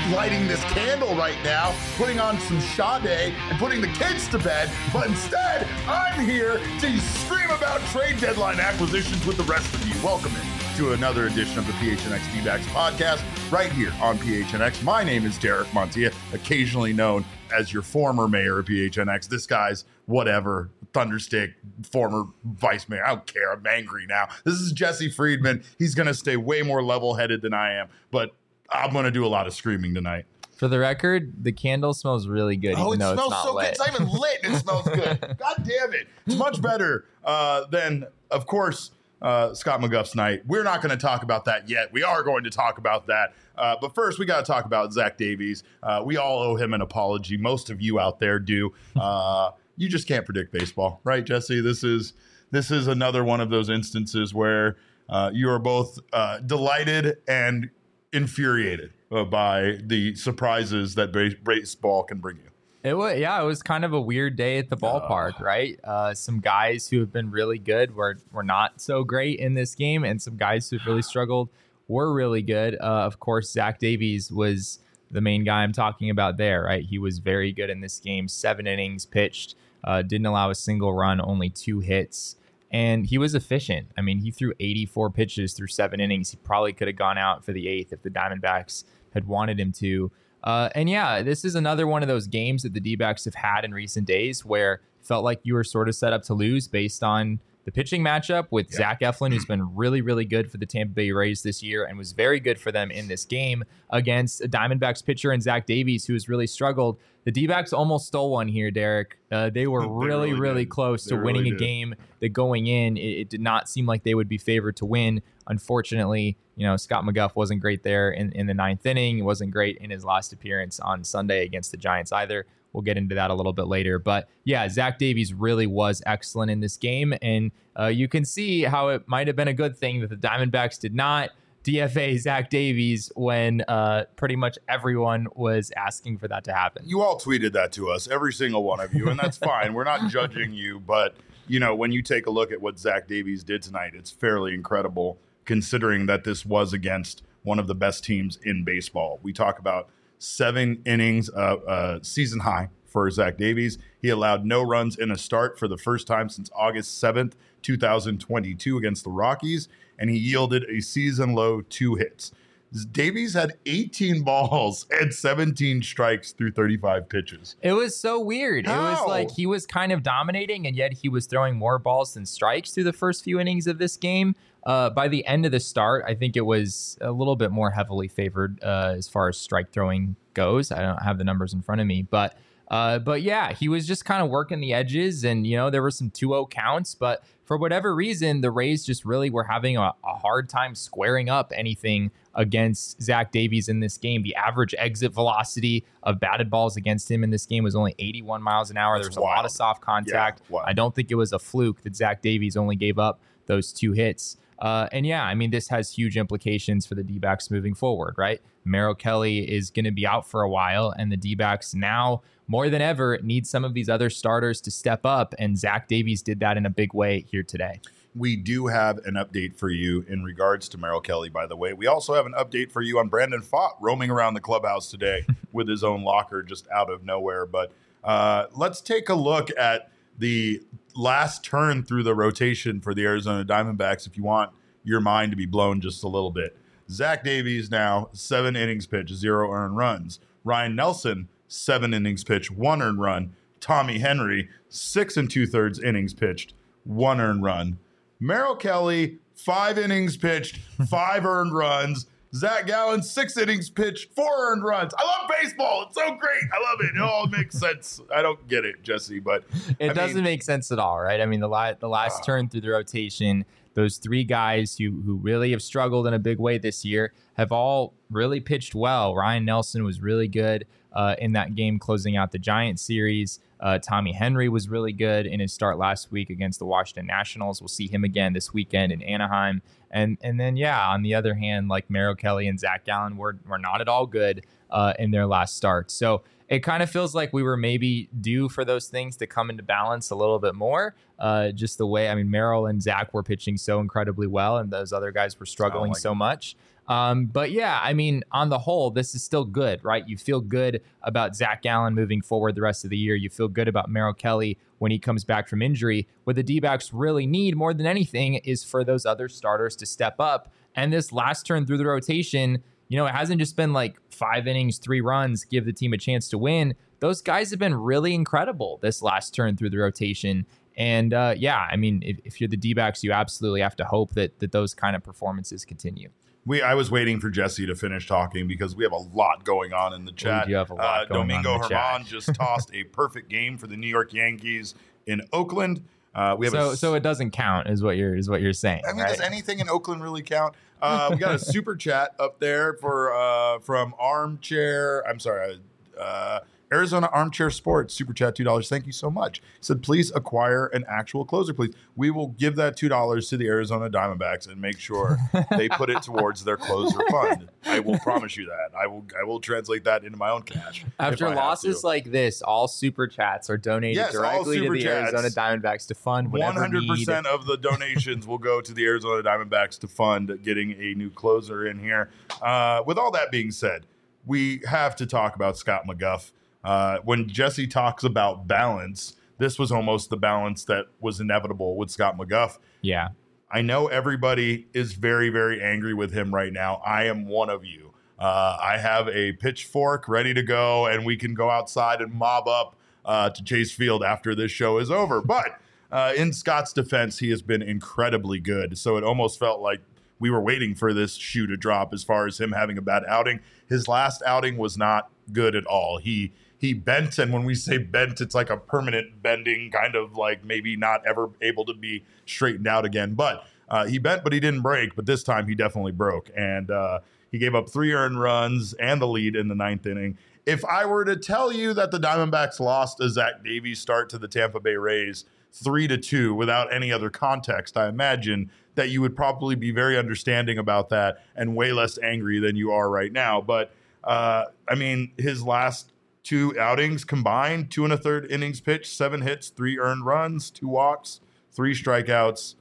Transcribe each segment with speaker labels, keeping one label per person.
Speaker 1: lighting this candle right now, putting on some Sade and putting the kids to bed, but instead, I'm here to scream about trade deadline acquisitions with the rest of you. Welcome to another edition of the PHNX D-backs podcast right here on PHNX. My name is Derek Montilla, occasionally known as your former mayor of PHNX. This guy's whatever, Thunderstick, former vice mayor. I don't care. I'm angry now. This is Jesse Friedman. He's going to stay way more level-headed than I am, but I'm going to do a lot of screaming tonight.
Speaker 2: For the record, the candle smells really good.
Speaker 1: Oh, it
Speaker 2: even though
Speaker 1: smells
Speaker 2: it's not
Speaker 1: so
Speaker 2: lit.
Speaker 1: good. It's not even lit and it smells good. God damn it. It's much better than, of course, Scott McGuff's night. We're not going to talk about that yet. We are going to talk about that. But first, we got to talk about Zach Davies. We all owe him an apology. Most of you out there do. You just can't predict baseball, right, Jesse? This is another one of those instances where you are both delighted and infuriated by the surprises that baseball can bring you.
Speaker 2: It was kind of a weird day at the ballpark, right? Some guys who have been really good were not so great in this game, and some guys who've really struggled were really good. Of course, Zach Davies was the main guy I'm talking about there, right? He was very good in this game. 7 innings pitched, didn't allow a single run, only 2 hits. And he was efficient. I mean, he threw 84 pitches through 7 innings. He probably could have gone out for the 8th if the Diamondbacks had wanted him to. And yeah, this is another one of those games that the D-backs have had in recent days where it felt like you were sort of set up to lose based on the pitching matchup with Zach Eflin, who's been really, really good for the Tampa Bay Rays this year and was very good for them in this game against a Diamondbacks pitcher and Zach Davies, who has really struggled. The D-backs almost stole one here, Derek. They were really close to winning a game that going in, it did not seem like they would be favored to win. Unfortunately, Scott McGuff wasn't great there in the 9th inning. He wasn't great in his last appearance on Sunday against the Giants either. We'll get into that a little bit later. But yeah, Zach Davies really was excellent in this game. And you can see how it might have been a good thing that the Diamondbacks did not DFA Zach Davies when pretty much everyone was asking for that to happen.
Speaker 1: You all tweeted that to us, every single one of you, and that's fine. We're not judging you, but when you take a look at what Zach Davies did tonight, it's fairly incredible considering that this was against one of the best teams in baseball. We talk about 7 innings, season high for Zach Davies. He allowed no runs in a start for the first time since August 7th, 2022 against the Rockies, and he yielded a season-low 2 hits. Davies had 18 balls and 17 strikes through 35 pitches.
Speaker 2: It was so weird.
Speaker 1: How?
Speaker 2: It was like he was kind of dominating, and yet he was throwing more balls than strikes through the first few innings of this game. By the end of the start, I think it was a little bit more heavily favored as far as strike throwing goes. I don't have the numbers in front of me, but yeah, he was just kind of working the edges, and there were some 2-0 counts, but for whatever reason, the Rays just really were having a hard time squaring up anything against Zach Davies in this game. The average exit velocity of batted balls against him in this game was only 81 miles an hour. There was a lot of soft contact.
Speaker 1: Yeah, wow.
Speaker 2: I don't think it was a fluke that Zach Davies only gave up those 2 hits. And yeah, I mean, this has huge implications for the D-backs moving forward, right? Merrill Kelly is going to be out for a while, and the D-backs now more than ever need some of these other starters to step up, and Zach Davies did that in a big way here today.
Speaker 1: We do have an update for you in regards to Merrill Kelly, by the way. We also have an update for you on Brandon Pfaadt roaming around the clubhouse today with his own locker just out of nowhere. But let's take a look at the last turn through the rotation for the Arizona Diamondbacks if you want your mind to be blown just a little bit. Zach Davies now 7 innings pitched, 0 earned runs. Ryan Nelson 7 innings pitched, 1 earned run. Tommy Henry 6 2/3 innings pitched, 1 earned run. Merrill Kelly 5 innings pitched, 5 earned runs. Zach Gallen 6 innings pitched, 4 earned runs. I love baseball. It's so great. I love it. It all makes sense. I don't get it, Jesse, but
Speaker 2: it doesn't make sense at all, right? I mean, the last turn through the rotation, those 3 guys who really have struggled in a big way this year have all really pitched well. Ryan Nelson was really good in that game closing out the Giants series. Tommy Henry was really good in his start last week against the Washington Nationals. We'll see him again this weekend in Anaheim. And then, yeah, on the other hand, like Merrill Kelly and Zach Gallen were not at all good in their last start. So it kind of feels like we were maybe due for those things to come into balance a little bit more. Just the way, I mean, Merrill and Zach were pitching so incredibly well, and those other guys were struggling so much. But yeah, I mean, on the whole, this is still good, right? You feel good about Zach Gallen moving forward the rest of the year. You feel good about Merrill Kelly when he comes back from injury. What the D-backs really need more than anything is for those other starters to step up. And this last turn through the rotation, you know, it hasn't just been like 5 innings, 3 runs, give the team a chance to win. Those guys have been really incredible this last turn through the rotation. And yeah, I mean, if you're the D-backs, you absolutely have to hope that those kind of performances continue.
Speaker 1: I was waiting for Jesse to finish talking because we have a lot going on in the chat.
Speaker 2: You have a lot going
Speaker 1: Domingo
Speaker 2: on in the
Speaker 1: Germán
Speaker 2: chat.
Speaker 1: just tossed a perfect game for the New York Yankees in Oakland. We have
Speaker 2: so it doesn't count, is what you're saying.
Speaker 1: I mean,
Speaker 2: right?
Speaker 1: does anything in Oakland really count? We got a super chat up there for from Arizona Armchair Sports, super chat $2. Thank you so much. He said, please acquire an actual closer, please. We will give that $2 to the Arizona Diamondbacks and make sure they put it towards their closer fund. I will promise you that. I will translate that into my own cash.
Speaker 2: After losses like this, all super chats are donated directly to the Arizona Diamondbacks to fund whatever
Speaker 1: 100% of the donations will go to the Arizona Diamondbacks to fund getting a new closer in here. With all that being said, we have to talk about Scott McGough. When Jesse talks about balance, this was almost the balance that was inevitable with Scott McGough.
Speaker 2: Yeah.
Speaker 1: I know everybody is very, very angry with him right now. I am one of you. I have a pitchfork ready to go, and we can go outside and mob up to Chase Field after this show is over. But in Scott's defense, he has been incredibly good. So it almost felt like we were waiting for this shoe to drop as far as him having a bad outing. His last outing was not good at all. He bent, and when we say bent, it's like a permanent bending, kind of like maybe not ever able to be straightened out again. But he bent, but he didn't break. But this time he definitely broke, and he gave up 3 earned runs and the lead in the 9th inning. If I were to tell you that the Diamondbacks lost a Zach Davies start to the Tampa Bay Rays 3-2 without any other context, I imagine that you would probably be very understanding about that and way less angry than you are right now. But I mean, his last 2 outings combined, 2 1/3 innings pitched, 7 hits, 3 earned runs, 2 walks, 3 strikeouts,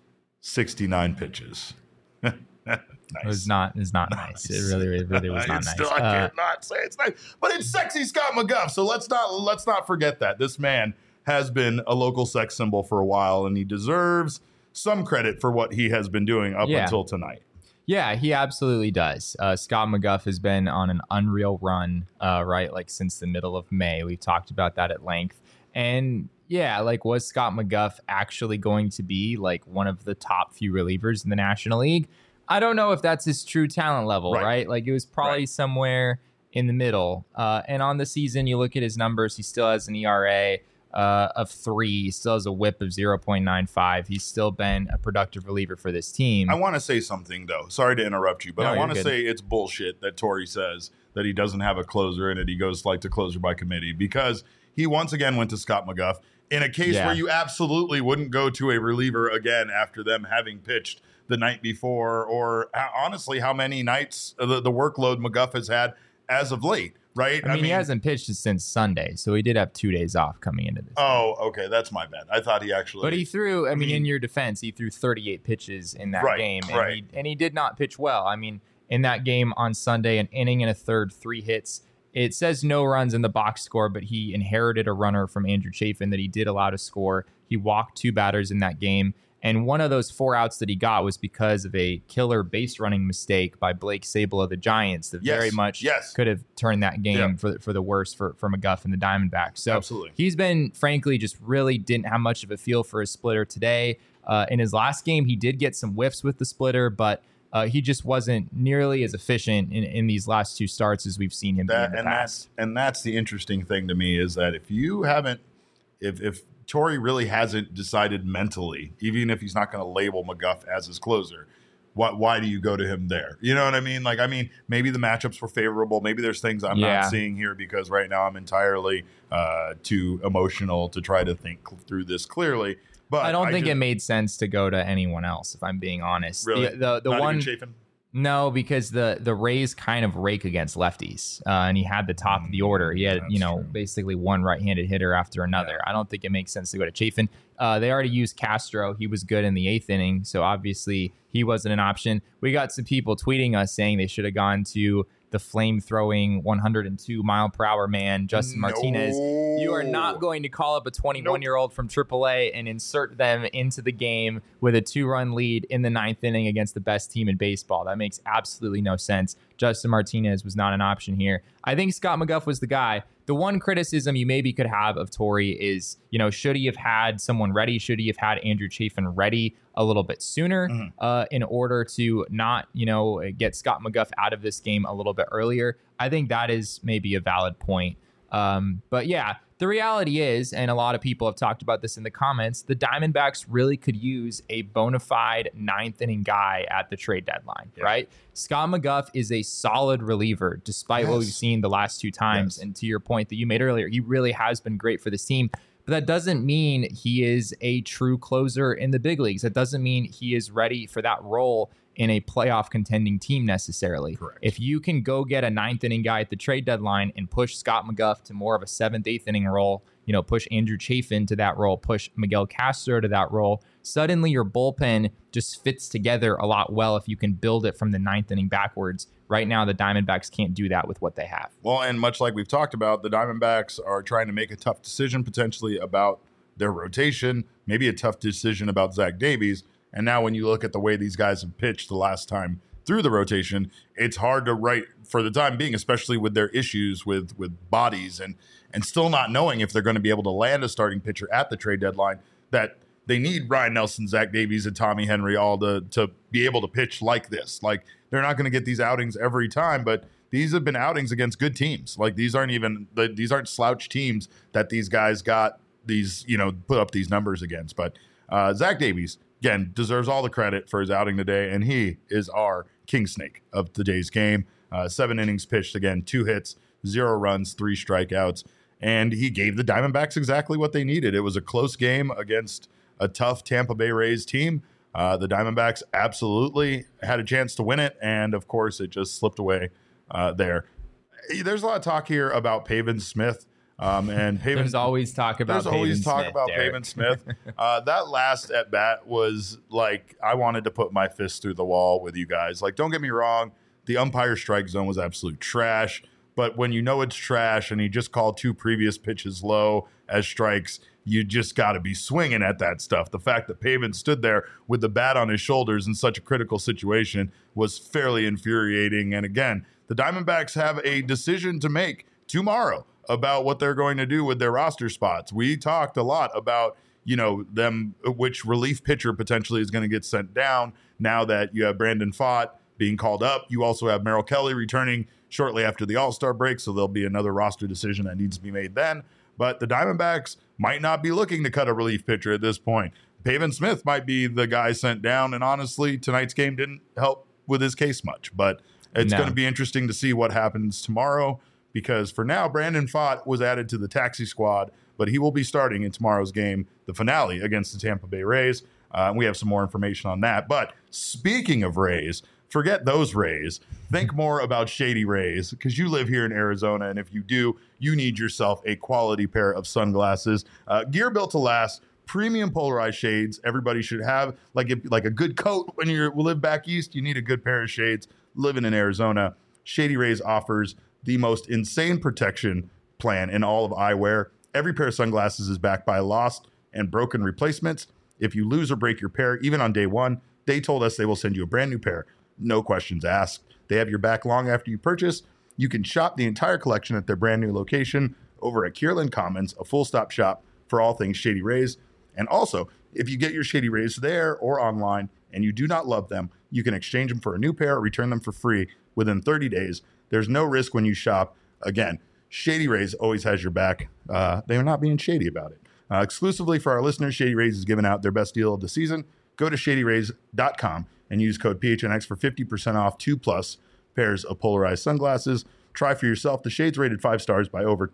Speaker 1: 69 pitches. Nice.
Speaker 2: It's not nice. It really was not nice.
Speaker 1: I cannot say it's nice, but it's sexy Scott McGough. So let's not forget that this man has been a local sex symbol for a while, and he deserves some credit for what he has been doing up until tonight.
Speaker 2: Yeah, he absolutely does. Scott McGough has been on an unreal run, right? Like since the middle of May. We've talked about that at length. And yeah, like was Scott McGough actually going to be like one of the top few relievers in the National League? I don't know if that's his true talent level, right? Like it was probably somewhere in the middle. And on the season, you look at his numbers, he still has an ERA of 3. He still has a whip of 0.95. He's still been a productive reliever for this team.
Speaker 1: I want to say something, though. Sorry to interrupt you, but I want to say it's bullshit that Torey says that he doesn't have a closer and that he goes like to closer by committee, because he once again went to Scott McGough in a case where you absolutely wouldn't go to a reliever again after them having pitched the night before, or honestly, how many nights the workload McGough has had as of late. Right.
Speaker 2: I mean, he hasn't pitched since Sunday, so he did have 2 days off coming into this.
Speaker 1: Oh, okay. That's my bad. I thought he actually.
Speaker 2: But he threw, I mean, in your defense, he threw 38 pitches in that game. And he did not pitch well. I mean, in that game on Sunday, an inning and a third, 3 hits. It says no runs in the box score, but he inherited a runner from Andrew Chafin that he did allow to score. He walked 2 batters in that game. And one of those 4 outs that he got was because of a killer base running mistake by Blake Sable of the Giants that very much could have turned that game for the worse for McGough and the Diamondbacks. So he's been, frankly, just really didn't have much of a feel for his splitter today. In his last game, he did get some whiffs with the splitter, but he just wasn't nearly as efficient in these last 2 starts as we've seen him be in the past.
Speaker 1: That's the interesting thing to me, is that if you haven't, if Torey really hasn't decided mentally, even if he's not going to label McGough as his closer, why do you go to him there? You know what I mean? Like, I mean, maybe the matchups were favorable. Maybe there's things I'm not seeing here because right now I'm entirely too emotional to try to think through this clearly. But
Speaker 2: I don't think it made sense to go to anyone else, if I'm being honest.
Speaker 1: Really?
Speaker 2: The
Speaker 1: not
Speaker 2: one
Speaker 1: even Chafin?
Speaker 2: No, because the Rays kind of rake against lefties, and he had the top of the order. He had,
Speaker 1: True.
Speaker 2: basically one right-handed hitter after another. I don't think it makes sense to go to Chafin. They already used Castro. He was good in the 8th inning, so obviously he wasn't an option. We got some people tweeting us saying they should have gone to the flame-throwing 102-mile-per-hour man, Justin Martinez. You are not going to call up a 21-year-old from AAA and insert them into the game with a 2-run lead in the 9th inning against the best team in baseball. That makes absolutely no sense. Justin Martinez was not an option here. I think Scott McGough was the guy. The one criticism you maybe could have of Torey is, should he have had someone ready? Should he have had Andrew Chafin ready a little bit sooner in order to not, get Scott McGough out of this game a little bit earlier? I think that is maybe a valid point. But yeah, the reality is, and a lot of people have talked about this in the comments, the Diamondbacks really could use a bona fide 9th inning guy at the trade deadline, right? Scott McGough is a solid reliever, despite what we've seen the last 2 times. And to your point that you made earlier, he really has been great for this team. But that doesn't mean he is a true closer in the big leagues. That doesn't mean he is ready for that role in a playoff contending team necessarily.
Speaker 1: Correct.
Speaker 2: If you can go get a 9th inning guy at the trade deadline and push Scott McGough to more of a 7th, 8th inning role, push Andrew Chafin to that role, push Miguel Castro to that role, suddenly your bullpen just fits together a lot well if you can build it from the 9th inning backwards. Right now, the Diamondbacks can't do that with what they have.
Speaker 1: Well, and much like we've talked about, the Diamondbacks are trying to make a tough decision potentially about their rotation, maybe a tough decision about Zach Davies. And now when you look at the way these guys have pitched the last time through the rotation, it's hard to write for the time being, especially with their issues with bodies and still not knowing if they're going to be able to land a starting pitcher at the trade deadline, that they need Ryan Nelson, Zach Davies, and Tommy Henry all to be able to pitch like this. Like, they're not going to get these outings every time, but these have been outings against good teams. Like, these aren't slouch teams that these guys got these, put up these numbers against. But Zach Davies, again, deserves all the credit for his outing today, and he is our king snake of today's game. 7 innings pitched, again, 2 hits, 0 runs, 3 strikeouts, and he gave the Diamondbacks exactly what they needed. It was a close game against a tough Tampa Bay Rays team. The Diamondbacks absolutely had a chance to win it, and of course, it just slipped away there. There's a lot of talk here about Pavin Smith. And Pavin,
Speaker 2: there's always talk about
Speaker 1: Pavin Smith. That last at bat was like, I wanted to put my fist through the wall with you guys. Like, don't get me wrong, the umpire strike zone was absolute trash. But when it's trash and he just called 2 previous pitches low as strikes, you just got to be swinging at that stuff. The fact that Pavin stood there with the bat on his shoulders in such a critical situation was fairly infuriating. And again, the Diamondbacks have a decision to make tomorrow about what they're going to do with their roster spots. We talked a lot about, them, which relief pitcher potentially is going to get sent down now that you have Brandon Pfaadt being called up. You also have Merrill Kelly returning shortly after the All-Star break, so there'll be another roster decision that needs to be made then. But the Diamondbacks might not be looking to cut a relief pitcher at this point. Pavin Smith might be the guy sent down, and honestly, tonight's game didn't help with his case much. But it's going to be interesting to see what happens tomorrow, because for now, Brandon Pfaadt was added to the taxi squad, but he will be starting in tomorrow's game, the finale against the Tampa Bay Rays. We have some more information on that. But speaking of Rays, forget those Rays. Think more about Shady Rays, because you live here in Arizona, and if you do, you need yourself a quality pair of sunglasses. Gear built to last, premium polarized shades. Everybody should have like a good coat when you live back east. You need a good pair of shades. Living in Arizona, Shady Rays offers the most insane protection plan in all of eyewear. Every pair of sunglasses is backed by lost and broken replacements. If you lose or break your pair, even on day one, they told us they will send you a brand new pair. No questions asked. They have your back long after you purchase. You can shop the entire collection at their brand new location over at Kierland Commons, a full-stop shop for all things Shady Rays. And also, if you get your Shady Rays there or online and you do not love them, you can exchange them for a new pair or return them for free within 30 days. There's no risk when you shop. Again, Shady Rays always has your back. They are not being shady about it. Exclusively for our listeners, Shady Rays is giving out their best deal of the season. Go to shadyrays.com and use code PHNX for 50% off 2+ pairs of polarized sunglasses. Try for yourself. The shades rated 5 stars by over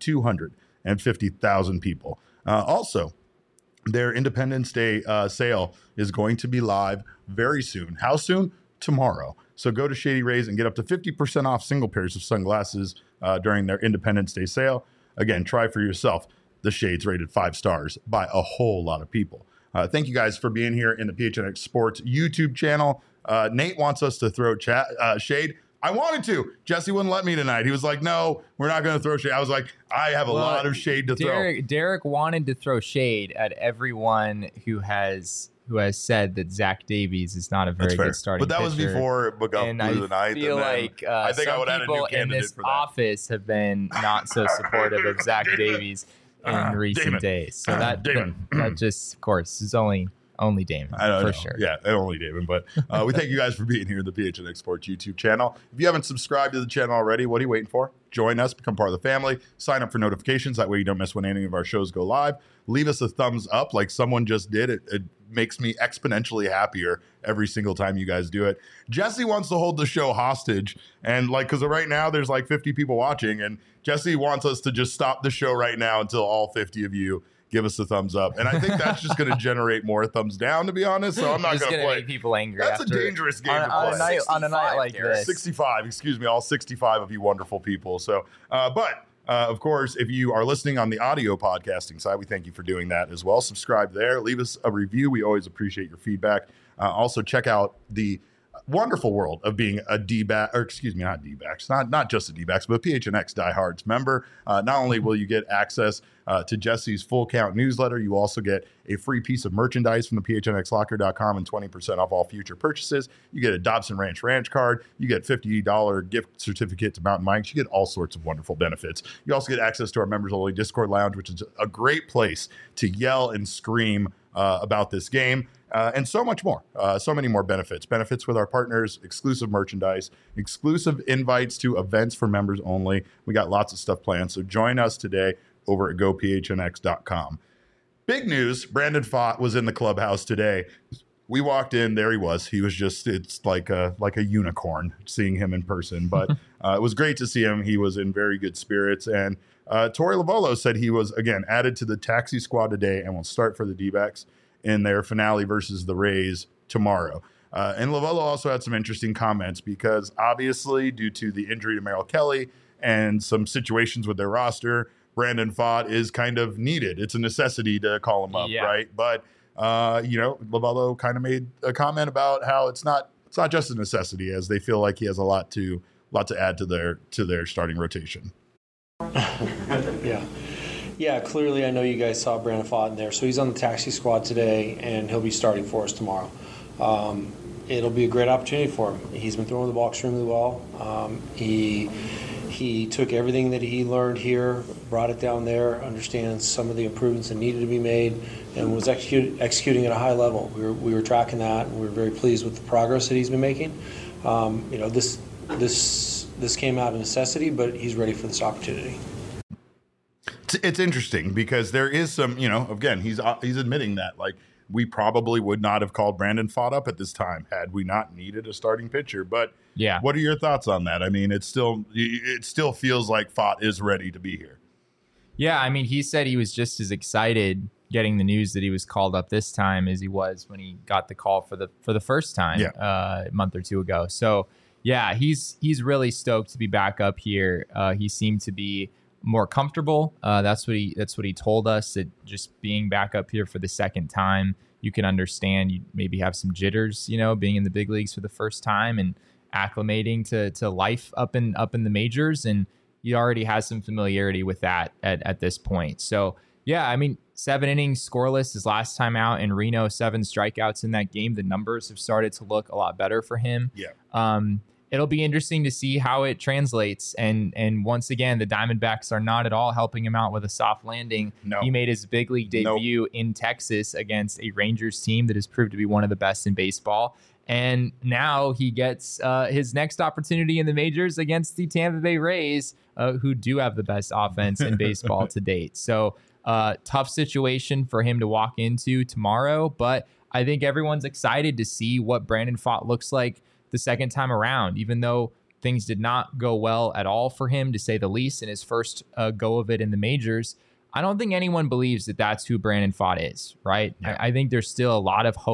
Speaker 1: 250,000 people. Also, their Independence Day sale is going to be live very soon. How soon? Tomorrow. So go to Shady Rays and get up to 50% off single pairs of sunglasses during their Independence Day sale. Again, try for yourself. The shades rated 5 stars by a whole lot of people. Thank you guys for being here in the PHNX Sports YouTube channel. Nate wants us to throw shade. I wanted to. Jesse wouldn't let me tonight. He was like, no, we're not going to throw shade. I was like, I have a lot of shade to throw.
Speaker 2: Derek wanted to throw shade at everyone who has said that Zach Davies is not a very good starting pitcher.
Speaker 1: But that was before McGuff blew the ninth.
Speaker 2: I feel like I think some people in this office have been not so supportive of Zach Davies in recent days. So that just, of course, is only Damon, for sure.
Speaker 1: Yeah, only Damon. But we thank you guys for being here in the PHNX Sports YouTube channel. If you haven't subscribed to the channel already, what are you waiting for? Join us, become part of the family, sign up for notifications. That way you don't miss when any of our shows go live. Leave us a thumbs up like someone just did. It makes me exponentially happier every single time you guys do it. Jesse wants to hold the show hostage. And because right now there's 50 people watching. And Jesse wants us to just stop the show right now until all 50 of you give us a thumbs up. And I think that's just going to generate more thumbs down, to be honest. So I'm not going to play.
Speaker 2: Make people angry.
Speaker 1: That's a dangerous game to play.
Speaker 2: On a night like this.
Speaker 1: 65, excuse me, all 65 of you wonderful people. So, of course, if you are listening on the audio podcasting side, we thank you for doing that as well. Subscribe there. Leave us a review. We always appreciate your feedback. Also, check out the wonderful world of being a D-back, or excuse me, not D-backs, not just a D-backs, but a PHNX Diehards member. Not only will you get access to Jesse's Full Count newsletter, you also get a free piece of merchandise from the PHNXlocker.com and 20% off all future purchases. You get a Dobson Ranch card. You get $50 gift certificate to Mountain Mike's. You get all sorts of wonderful benefits. You also get access to our members-only Discord lounge, which is a great place to yell and scream about this game. And so much more, so many more benefits with our partners, exclusive merchandise, exclusive invites to events for members only. We got lots of stuff planned. So join us today over at gophnx.com. Big news. Brandon Pfaadt was in the clubhouse today. We walked in, there he was. He was it's like a unicorn seeing him in person, but it was great to see him. He was in very good spirits. And Torey Lovullo said he was, again, added to the taxi squad today and will start for the D-backs in their finale versus the Rays tomorrow. And Lovullo also had some interesting comments because obviously due to the injury to Merrill Kelly and some situations with their roster, Brandon Pfaadt is kind of needed. It's a necessity to call him up, right? But, Lovullo kind of made a comment about how it's not just a necessity, as they feel like he has a lot to add to their starting rotation.
Speaker 3: Yeah, clearly I know you guys saw Brandon Pfaadt in there. So he's on the taxi squad today, and he'll be starting for us tomorrow. It'll be a great opportunity for him. He's been throwing the ball extremely well. He took everything that he learned here, brought it down there, understands some of the improvements that needed to be made, and was executing at a high level. We were tracking that, and we were very pleased with the progress that he's been making. This came out of necessity, but he's ready for this opportunity.
Speaker 1: It's interesting because there is some, again, he's admitting that we probably would not have called Brandon Pfaadt up at this time had we not needed a starting pitcher. But yeah, what are your thoughts on that? I mean, it still feels like Pfaadt is ready to be here.
Speaker 2: Yeah, I mean, he said he was just as excited getting the news that he was called up this time as he was when he got the call for the first time a month or two ago. So yeah, he's really stoked to be back up here. He seemed to be more comfortable. That's what he told us, that just being back up here for the second time, you can understand you maybe have some jitters, being in the big leagues for the first time and acclimating to life up in the majors, and he already has some familiarity with that at this point. So yeah, I mean, 7 innings scoreless his last time out in Reno, 7 strikeouts in that game. The numbers have started to look a lot better for him. Yeah. It'll be interesting to see how it translates. And once again, the Diamondbacks are not at all helping him out with a soft landing. No. He made his big league debut in Texas against a Rangers team that has proved to be one of the best in baseball. And now he gets his next opportunity in the majors against the Tampa Bay Rays, who do have the best offense in baseball to date. So tough situation for him to walk into tomorrow. But I think everyone's excited to see what Brandon Pfaadt looks like the second time around, even though things did not go well at all for him, to say the least, in his first go of it in the majors. I don't think anyone believes that that's who Brandon Pfaadt is, right? Yeah. I think there's still a lot of hope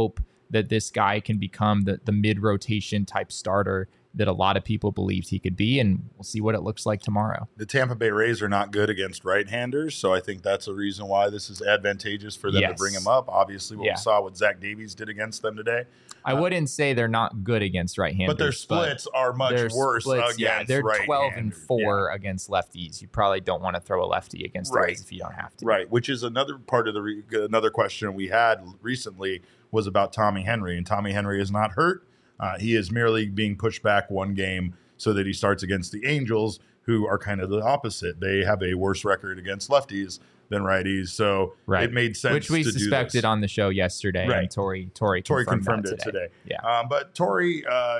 Speaker 2: that this guy can become the mid-rotation type starter that a lot of people believed he could be, and we'll see what it looks like tomorrow.
Speaker 1: The Tampa Bay Rays are not good against right-handers, so I think that's a reason why this is advantageous for them to bring him up. Obviously, what we saw what Zach Davies did against them today.
Speaker 2: I wouldn't say they're not good against right-handers,
Speaker 1: but their splits are much worse against
Speaker 2: they're
Speaker 1: right-handers.
Speaker 2: 12-4 against lefties. You probably don't want to throw a lefty against the Rays if you don't have to.
Speaker 1: Right, which is another part of another question we had recently was about Tommy Henry, and Tommy Henry is not hurt. He is merely being pushed back one game so that he starts against the Angels, who are kind of the opposite. They have a worse record against lefties than righties, so it made sense.
Speaker 2: Which we suspected on the show yesterday, and Tori confirmed it today.
Speaker 1: Yeah, but Tori,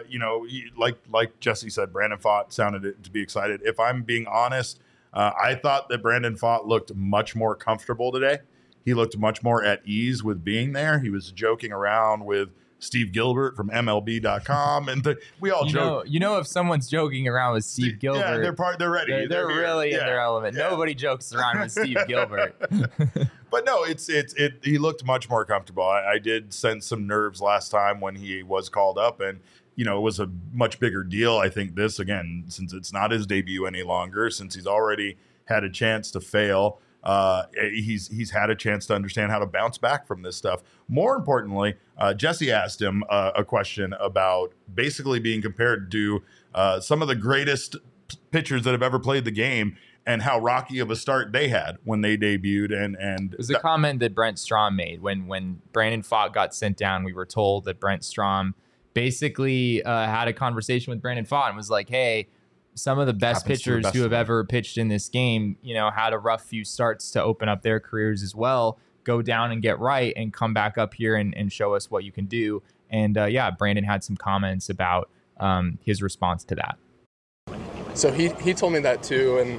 Speaker 1: like Jesse said, Brandon Pfaadt sounded it to be excited. If I'm being honest, I thought that Brandon Pfaadt looked much more comfortable today. He looked much more at ease with being there. He was joking around with Steve Gilbert from MLB.com, and we all joke.
Speaker 2: If someone's joking around with Steve Gilbert,
Speaker 1: they're ready.
Speaker 2: They're really in their element. Yeah. Nobody jokes around with Steve Gilbert.
Speaker 1: But no, he looked much more comfortable. I did sense some nerves last time when he was called up, and it was a much bigger deal. I think this, again, since it's not his debut any longer, since he's already had a chance to fail. He's had a chance to understand how to bounce back from this stuff. More importantly, Jesse asked him a question about basically being compared to some of the greatest pitchers that have ever played the game and how rocky of a start they had when they debuted. And
Speaker 2: it was a comment that Brent Strom made when Brandon Pfaadt got sent down. We were told that Brent Strom basically had a conversation with Brandon Pfaadt and was like, "Hey, some of the best pitchers who have ever pitched in this game, had a rough few starts to open up their careers as well. Go down and get right and come back up here and show us what you can do." And Brandon had some comments about his response to that.
Speaker 4: So he told me that too, and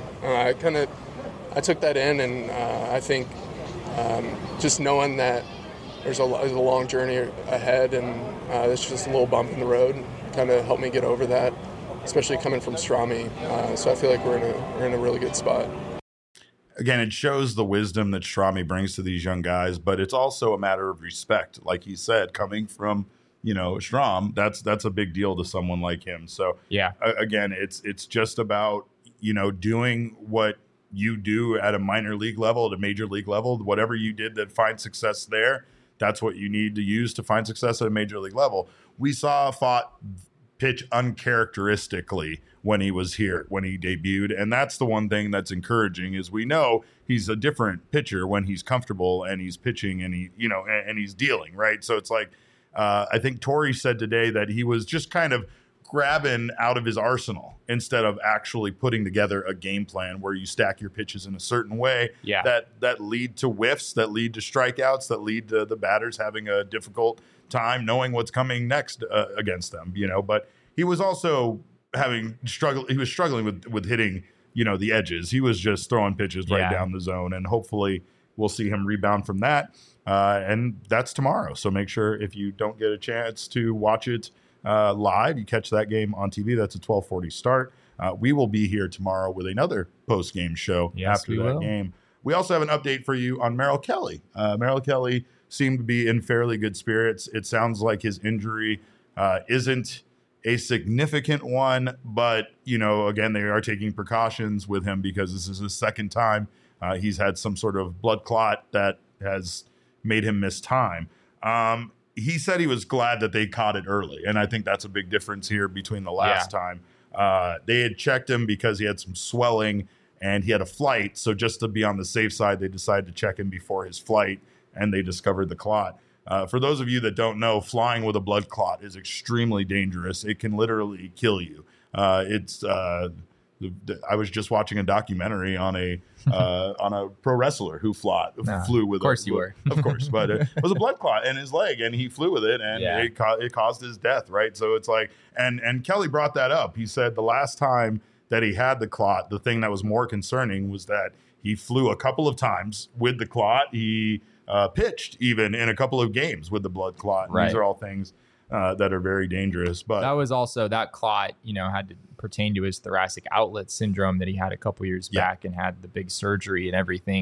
Speaker 4: I took that in, and I think just knowing that there's a long journey ahead, and it's just a little bump in the road, kind of helped me get over that, especially coming from Strami. So I feel like we're in a really good spot.
Speaker 1: Again, it shows the wisdom that Strami brings to these young guys, but it's also a matter of respect. Like he said, coming from Strom, that's a big deal to someone like him. So again, it's just about doing what you do at a minor league level, at a major league level. Whatever you did that find success there, that's what you need to use to find success at a major league level. We saw Pfaadt pitch uncharacteristically when he was here, when he debuted. And that's the one thing that's encouraging is we know he's a different pitcher when he's comfortable and he's pitching and and he's dealing, right? So it's like, I think Tori said today that he was just kind of grabbing out of his arsenal instead of actually putting together a game plan where you stack your pitches in a certain way that lead to whiffs, that lead to strikeouts, that lead to the batters having a difficult time knowing what's coming next against them, but he was also struggling with hitting, the edges. He was just throwing pitches right down the zone, and hopefully we'll see him rebound from that. And that's tomorrow. So make sure if you don't get a chance to watch it live, you catch that game on TV. That's a 12:40 start. We will be here tomorrow with another post-game show after that game. We also have an update for you on Merrill Kelly. Merrill Kelly seemed to be in fairly good spirits. It sounds like his injury isn't a significant one, but, again, they are taking precautions with him because this is his second time he's had some sort of blood clot that has made him miss time. He said he was glad that they caught it early, and I think that's a big difference here between the last time. They had checked him because he had some swelling and he had a flight, so just to be on the safe side, they decided to check him before his flight, and they discovered the clot. For those of you that don't know, flying with a blood clot is extremely dangerous. It can literally kill you. I was just watching a documentary on a pro wrestler who flew with.
Speaker 2: Of course you were.
Speaker 1: Of course, but it was a blood clot in his leg, and he flew with it, and it caused his death. Right, so it's like, and Kelly brought that up. He said the last time that he had the clot, the thing that was more concerning was that he flew a couple of times with the clot. He pitched even in a couple of games with the blood clot. Right. These are all things that are very dangerous. But
Speaker 2: that was also that clot, had to pertain to his thoracic outlet syndrome that he had a couple years back and had the big surgery and everything.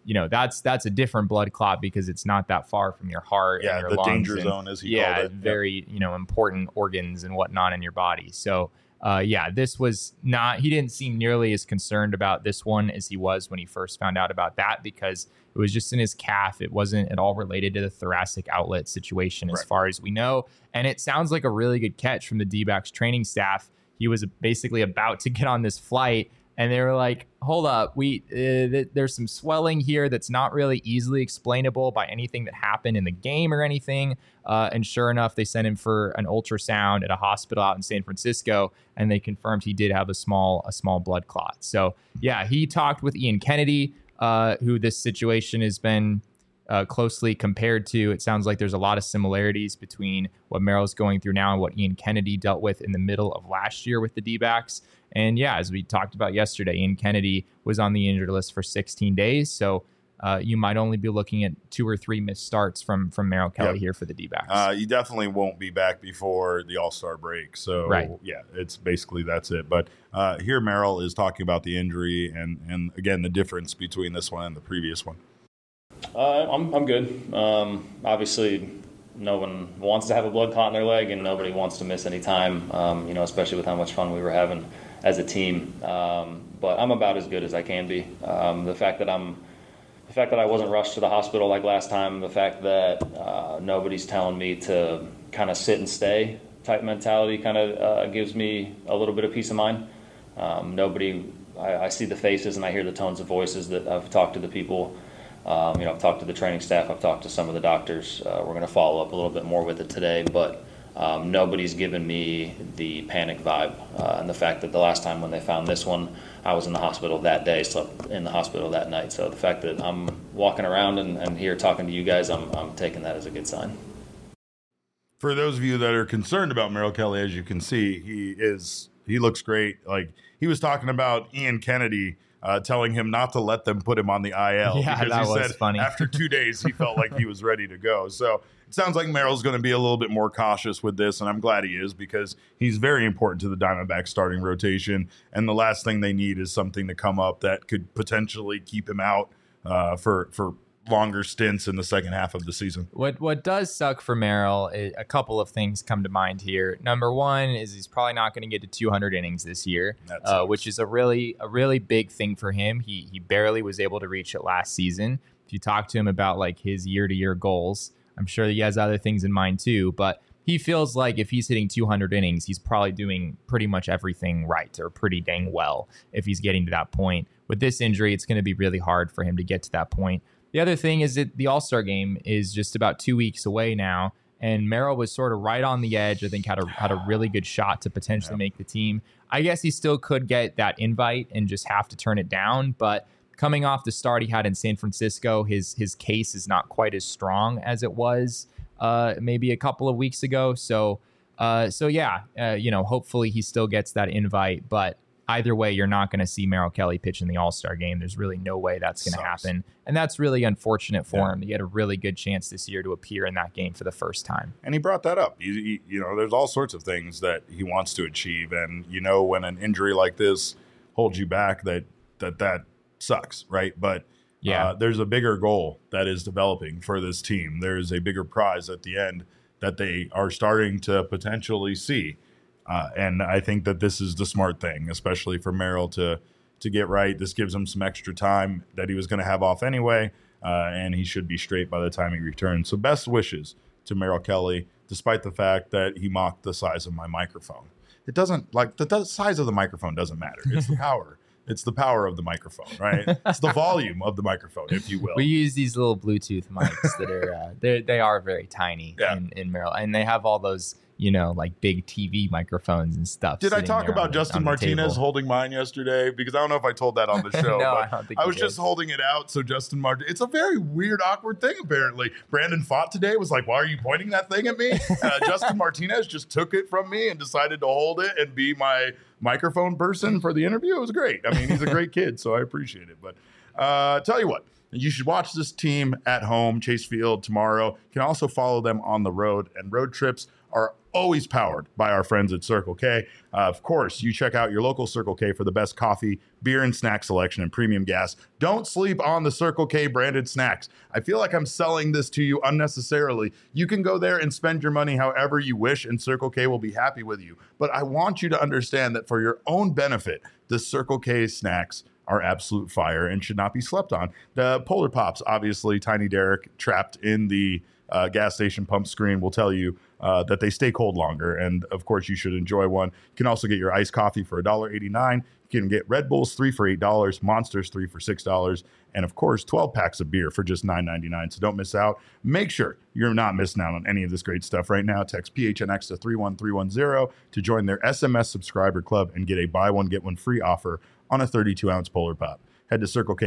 Speaker 2: that's a different blood clot because it's not that far from your heart and your
Speaker 1: the
Speaker 2: lungs
Speaker 1: danger
Speaker 2: and,
Speaker 1: zone, as he called it.
Speaker 2: very important organs and whatnot in your body. So this was not, he didn't seem nearly as concerned about this one as he was when he first found out about that, because it was just in his calf. It wasn't at all related to the thoracic outlet situation as far as we know. And it sounds like a really good catch from the D-backs training staff. He was basically about to get on this flight and they were like, hold up, there's some swelling here that's not really easily explainable by anything that happened in the game or anything. And sure enough, they sent him for an ultrasound at a hospital out in San Francisco, and they confirmed he did have a small blood clot. So yeah, he talked with Ian Kennedy, who this situation has been closely compared to. It sounds like there's a lot of similarities between what Merrill's going through now and what Ian Kennedy dealt with in the middle of last year with the D-backs. And yeah, as we talked about yesterday, Ian Kennedy was on the injured list for 16 days. So you might only be looking at 2 or 3 missed starts from Merrill Kelly here for the D-backs.
Speaker 1: You definitely won't be back before the All-Star break. So yeah, it's basically that's it. But here Merrill is talking about the injury and again, the difference between this one and the previous one.
Speaker 5: I'm good. Obviously, no one wants to have a blood clot in their leg, and nobody wants to miss any time, especially with how much fun we were having as a team. But I'm about as good as I can be. The fact that I wasn't rushed to the hospital like last time, the fact that nobody's telling me to kind of sit and stay type mentality kind of gives me a little bit of peace of mind. I see the faces and I hear the tones of voices that I've talked to the people. I've talked to the training staff. I've talked to some of the doctors. We're going to follow up a little bit more with it today, but nobody's given me the panic vibe. And the fact that the last time when they found this one, I was in the hospital that day, slept in the hospital that night. So the fact that I'm walking around and here talking to you guys, I'm taking that as a good sign.
Speaker 1: For those of you that are concerned about Merrill Kelly, as you can see, he looks great. Like, he was talking about Ian Kennedy telling him not to let them put him on the IL.
Speaker 2: Yeah,
Speaker 1: because
Speaker 2: that
Speaker 1: he
Speaker 2: was
Speaker 1: said
Speaker 2: funny.
Speaker 1: After 2 days, he felt like he was ready to go. So it sounds like Merrill's going to be a little bit more cautious with this, and I'm glad he is, because he's very important to the Diamondbacks starting rotation. And the last thing they need is something to come up that could potentially keep him out for longer stints in the second half of the season.
Speaker 2: What does suck for Merrill, a couple of things come to mind here. Number one is he's probably not going to get to 200 innings this year, which is a really big thing for him. He barely was able to reach it last season. If you talk to him about like his year-to-year goals, I'm sure he has other things in mind too, but he feels like if he's hitting 200 innings, he's probably doing pretty much everything right, or pretty dang well if he's getting to that point. With this injury, it's going to be really hard for him to get to that point. The other thing is that the All-Star game is just about 2 weeks away now, and Merrill was sort of right on the edge. I think had a really good shot to potentially make the team. I guess he still could get that invite and just have to turn it down, but coming off the start he had in San Francisco, his case is not quite as strong as it was maybe a couple of weeks ago. So hopefully he still gets that invite, but either way, you're not going to see Merrill Kelly pitch in the All-Star game. There's really no way that's going to happen. And that's really unfortunate for him. He had a really good chance this year to appear in that game for the first time.
Speaker 1: And he brought that up. There's all sorts of things that he wants to achieve. And, when an injury like this holds you back, that sucks, right? But there's a bigger goal that is developing for this team. There's a bigger prize at the end that they are starting to potentially see. And I think that this is the smart thing, especially for Merrill to get right. This gives him some extra time that he was going to have off anyway, and he should be straight by the time he returns. So best wishes to Merrill Kelly, despite the fact that he mocked the size of my microphone. It doesn't, the size of the microphone doesn't matter. It's the power. It's the power of the microphone, right? It's the volume of the microphone, if you will.
Speaker 2: We use these little Bluetooth mics that are they are very tiny in Merrill, and they have all those like big TV microphones and stuff.
Speaker 1: Did I talk about Justin Martinez holding mine yesterday? Because I don't know if I told that on the show.
Speaker 2: No,
Speaker 1: but
Speaker 2: I don't think
Speaker 1: I was just holding it out. So Justin Martinez, it's a very weird, awkward thing, apparently. Brandon Fott today was like, why are you pointing that thing at me? Justin Martinez just took it from me and decided to hold it and be my microphone person for the interview. It was great. I mean, he's a great kid, so I appreciate it. But tell you what, you should watch this team at home, Chase Field, tomorrow. You can also follow them on the road, and road trips are always powered by our friends at Circle K. Of course, you check out your local Circle K for the best coffee, beer, and snack selection and premium gas. Don't sleep on the Circle K branded snacks. I feel like I'm selling this to you unnecessarily. You can go there and spend your money however you wish, and Circle K will be happy with you. But I want you to understand that for your own benefit, the Circle K snacks are absolute fire and should not be slept on. The Polar Pops, obviously, Tiny Derek trapped in the gas station pump screen will tell you that they stay cold longer. And of course, you should enjoy one. You can also get your iced coffee for $1.89. You can get Red Bulls 3 for $8, Monsters 3 for $6, and of course, 12 packs of beer for just $9.99. So don't miss out. Make sure you're not missing out on any of this great stuff right now. Text PHNX to 31310 to join their SMS subscriber club and get a buy one, get one free offer on a 32-ounce Polar Pop. Head to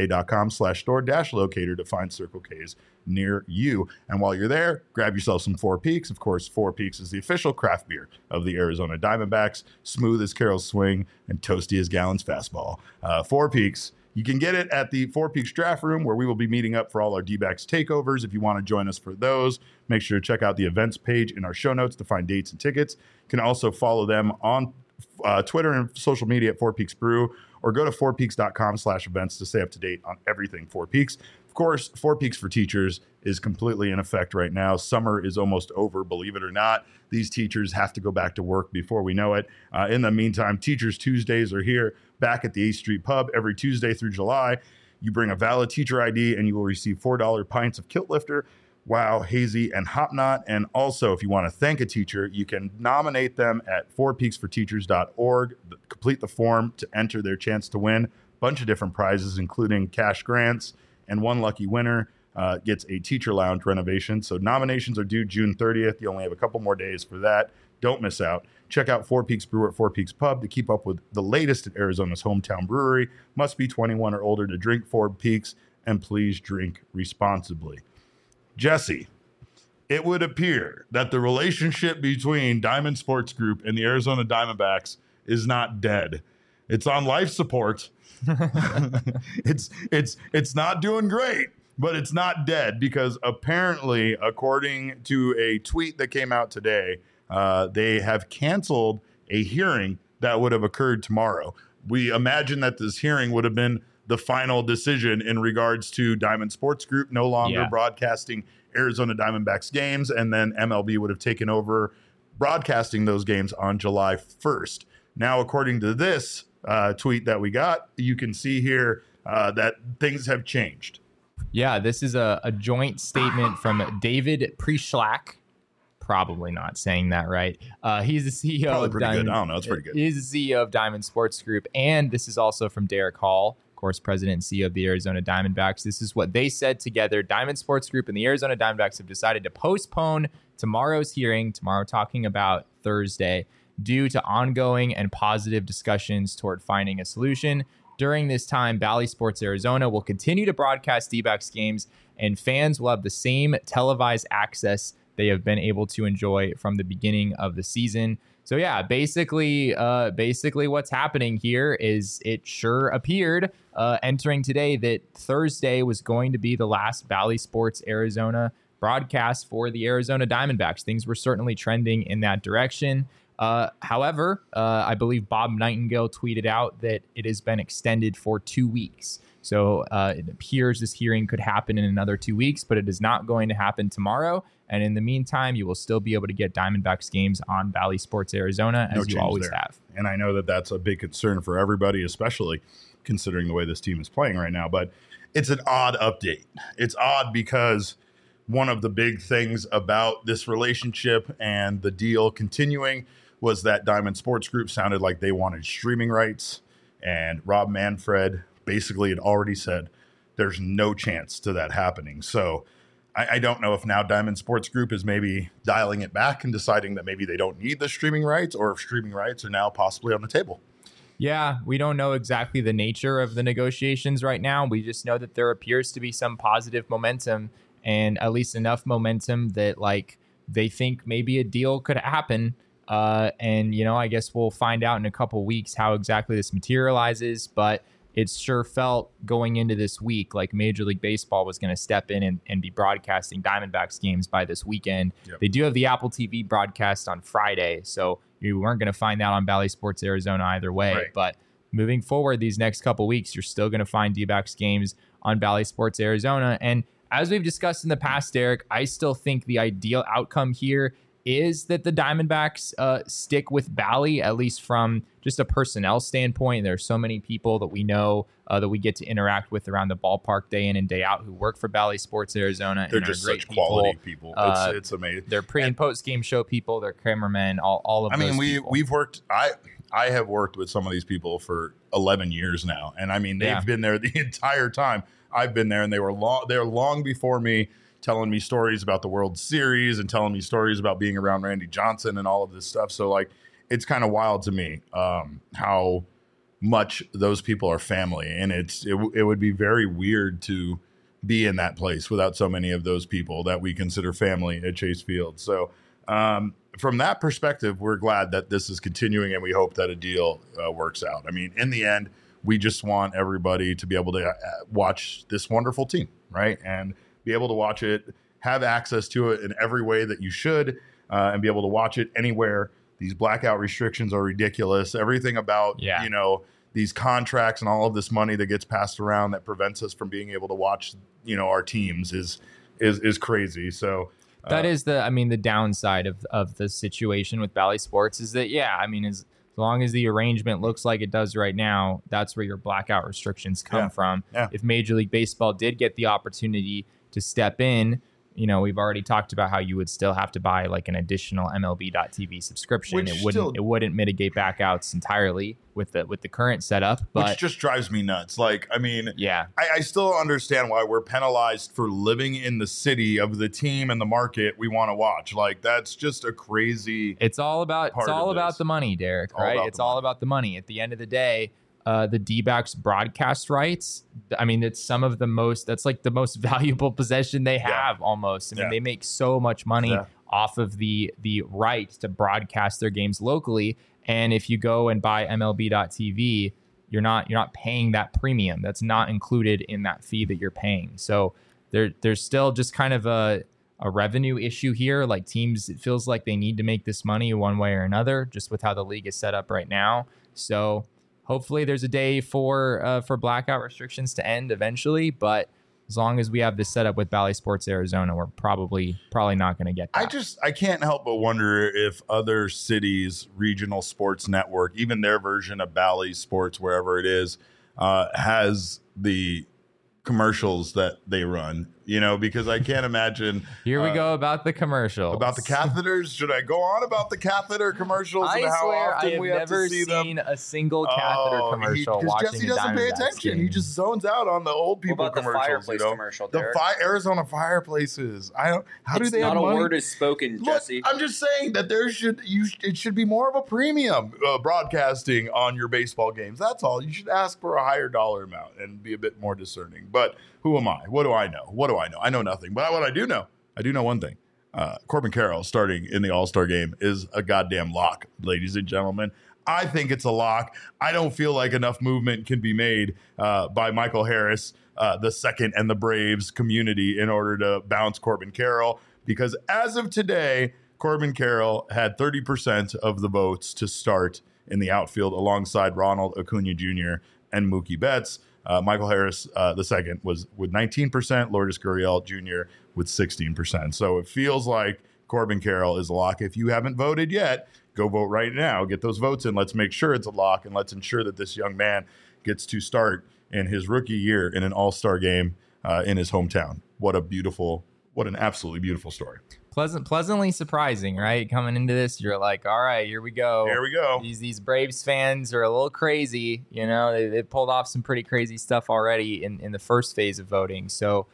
Speaker 1: circlek.com/store-locator to find Circle K's near you. And while you're there, grab yourself some Four Peaks. Of course, Four Peaks is the official craft beer of the Arizona Diamondbacks. Smooth as Carroll's swing and toasty as Gallen's fastball. Four Peaks. You can get it at the Four Peaks Draft Room, where we will be meeting up for all our D-backs takeovers. If you want to join us for those, make sure to check out the events page in our show notes to find dates and tickets. You can also follow them on Twitter and social media at Four Peaks Brew, or go to fourpeaks.com/events to stay up to date on everything Four Peaks. Of course, Four Peaks for Teachers is completely in effect right now. Summer is almost over, believe it or not. These teachers have to go back to work before we know it. In the meantime, Teachers Tuesdays are here, back at the 8th Street Pub every Tuesday through July. You bring a valid teacher ID and you will receive $4 pints of Kilt Lifter, Wow, Hazy, and Hopknot. And also, if you want to thank a teacher, you can nominate them at fourpeaksforteachers.org. Complete the form to enter their chance to win a bunch of different prizes, including cash grants, and one lucky winner gets a teacher lounge renovation. So nominations are due June 30th. You only have a couple more days for that. Don't miss out. Check out Four Peaks Brew at Four Peaks Pub to keep up with the latest at Arizona's hometown brewery. Must be 21 or older to drink Four Peaks, and please drink responsibly. Jesse, it would appear that the relationship between Diamond Sports Group and the Arizona Diamondbacks is not dead. It's on life support. It's not doing great, but it's not dead, because apparently, according to a tweet that came out today, they have canceled a hearing that would have occurred tomorrow. We imagine that this hearing would have been the final decision in regards to Diamond Sports Group no longer broadcasting Arizona Diamondbacks games, and then MLB would have taken over broadcasting those games on July 1st. Now, according to this tweet that we got, you can see here that things have changed.
Speaker 2: Yeah, this is a joint statement from David Prischlak. Probably not saying that right. He's the CEO of Diamond.
Speaker 1: I don't know. It's pretty good.
Speaker 2: He's the CEO of Diamond Sports Group. And this is also from Derek Hall, of course, president and CEO of the Arizona Diamondbacks. This is what they said together. Diamond Sports Group and the Arizona Diamondbacks have decided to postpone tomorrow's hearing, tomorrow talking about Thursday, due to ongoing and positive discussions toward finding a solution. During this time, Bally Sports Arizona will continue to broadcast D-backs games, and fans will have the same televised access they have been able to enjoy from the beginning of the season. So yeah, basically what's happening here is it sure appeared entering today that Thursday was going to be the last Bally Sports Arizona broadcast for the Arizona Diamondbacks. Things were certainly trending in that direction. However, I believe Bob Nightingale tweeted out that it has been extended for 2 weeks. So it appears this hearing could happen in another 2 weeks, but it is not going to happen tomorrow. And in the meantime, you will still be able to get Diamondbacks games on Bally Sports Arizona, as you always have.
Speaker 1: And I know that that's a big concern for everybody, especially considering the way this team is playing right now. But it's an odd update. It's odd because one of the big things about this relationship and the deal continuing was that Diamond Sports Group sounded like they wanted streaming rights. And Rob Manfred basically had already said there's no chance to that happening. So I don't know if now Diamond Sports Group is maybe dialing it back and deciding that maybe they don't need the streaming rights, or if streaming rights are now possibly on the table.
Speaker 2: Yeah, we don't know exactly the nature of the negotiations right now. We just know that there appears to be some positive momentum, and at least enough momentum that like they think maybe a deal could happen. And, you know, I guess we'll find out in a couple weeks how exactly this materializes. But it sure felt going into this week like Major League Baseball was going to step in and be broadcasting Diamondbacks games by this weekend.
Speaker 1: Yep.
Speaker 2: They do have the Apple TV broadcast on Friday, so you weren't going to find that on Bally Sports Arizona either way.
Speaker 1: Right.
Speaker 2: But moving forward, these next couple weeks, you're still going to find D-backs games on Bally Sports Arizona. And as we've discussed in the past, Derek, I still think the ideal outcome here is that the Diamondbacks stick with Bally, at least from just a personnel standpoint. There are so many people that we know that we get to interact with around the ballpark day in and day out who work for Bally Sports Arizona.
Speaker 1: They're
Speaker 2: and
Speaker 1: just
Speaker 2: great
Speaker 1: such quality people. It's amazing.
Speaker 2: They're pre and post game show people. They're cameramen. All of.
Speaker 1: I mean,
Speaker 2: those people.
Speaker 1: we've worked. I have worked with some of these people for 11 years now, and I mean they've been there the entire time I've been there, and they're long before me, telling me stories about the World Series and telling me stories about being around Randy Johnson and all of this stuff. So like, it's kind of wild to me how much those people are family, and it would be very weird to be in that place without so many of those people that we consider family at Chase Field. So from that perspective, we're glad that this is continuing, and we hope that a deal works out. I mean, in the end, we just want everybody to be able to watch this wonderful team, right? And be able to watch it, have access to it in every way that you should, and be able to watch it anywhere. These blackout restrictions are ridiculous. Everything about, these contracts and all of this money that gets passed around that prevents us from being able to watch, our teams is crazy. So
Speaker 2: that is the downside of the situation with Bally Sports is that, as long as the arrangement looks like it does right now, that's where your blackout restrictions come from.
Speaker 1: Yeah.
Speaker 2: If Major League Baseball did get the opportunity to step in, we've already talked about how you would still have to buy like an additional MLB.TV subscription. It wouldn't mitigate backouts entirely with the current setup, but
Speaker 1: which just drives me nuts. Like, I mean,
Speaker 2: yeah,
Speaker 1: I still understand why we're penalized for living in the city of the team and the market we want to watch. Like, that's just a crazy.
Speaker 2: It's all about the money, Derek. Right? It's all about the money. At the end of the day, the D-backs broadcast rights, I mean, that's like the most valuable possession they have almost. I mean, they make so much money off of the right to broadcast their games locally. And if you go and buy MLB.TV, you're not paying that premium. That's not included in that fee that you're paying. So there's still just kind of a revenue issue here. Like, teams, it feels like they need to make this money one way or another, just with how the league is set up right now. So hopefully there's a day for blackout restrictions to end eventually, but as long as we have this set up with Bally Sports Arizona, we're probably not going to get that.
Speaker 1: I can't help but wonder if other cities' regional sports network, even their version of Bally Sports, wherever it is, has the commercials that they run, because I can't imagine.
Speaker 2: Here we go about the commercials.
Speaker 1: About the catheters. Should I go on about the catheter commercials and how often we have to see them?
Speaker 2: I have never seen a single catheter commercial watching
Speaker 1: Jesse doesn't pay attention. He just zones out on the old people
Speaker 6: what about
Speaker 1: commercials.
Speaker 6: The fireplace commercial, Derek?
Speaker 1: Arizona fireplaces. How do they have money?
Speaker 6: Not a word is spoken, Jesse.
Speaker 1: Look, I'm just saying that it should be more of a premium broadcasting on your baseball games. That's all. You should ask for a higher dollar amount and be a bit more discerning. But who am I? What do I know? I know nothing. But what I do know one thing. Corbin Carroll starting in the All-Star game is a goddamn lock, ladies and gentlemen. I think it's a lock. I don't feel like enough movement can be made by Michael Harris, the second, and the Braves community in order to bounce Corbin Carroll, because as of today, Corbin Carroll had 30% of the votes to start in the outfield alongside Ronald Acuna Jr. and Mookie Betts. Michael Harris, the second, was with 19%, Lourdes Gurriel Jr. with 16%. So it feels like Corbin Carroll is a lock. If you haven't voted yet, go vote right now. Get those votes in. Let's make sure it's a lock, and let's ensure that this young man gets to start in his rookie year in an all-star game in his hometown. What an absolutely beautiful story.
Speaker 2: Pleasantly surprising, right? Coming into this, you're like, all right, here we go.
Speaker 1: Here we go.
Speaker 2: These Braves fans are a little crazy. They pulled off some pretty crazy stuff already in the first phase of voting. So,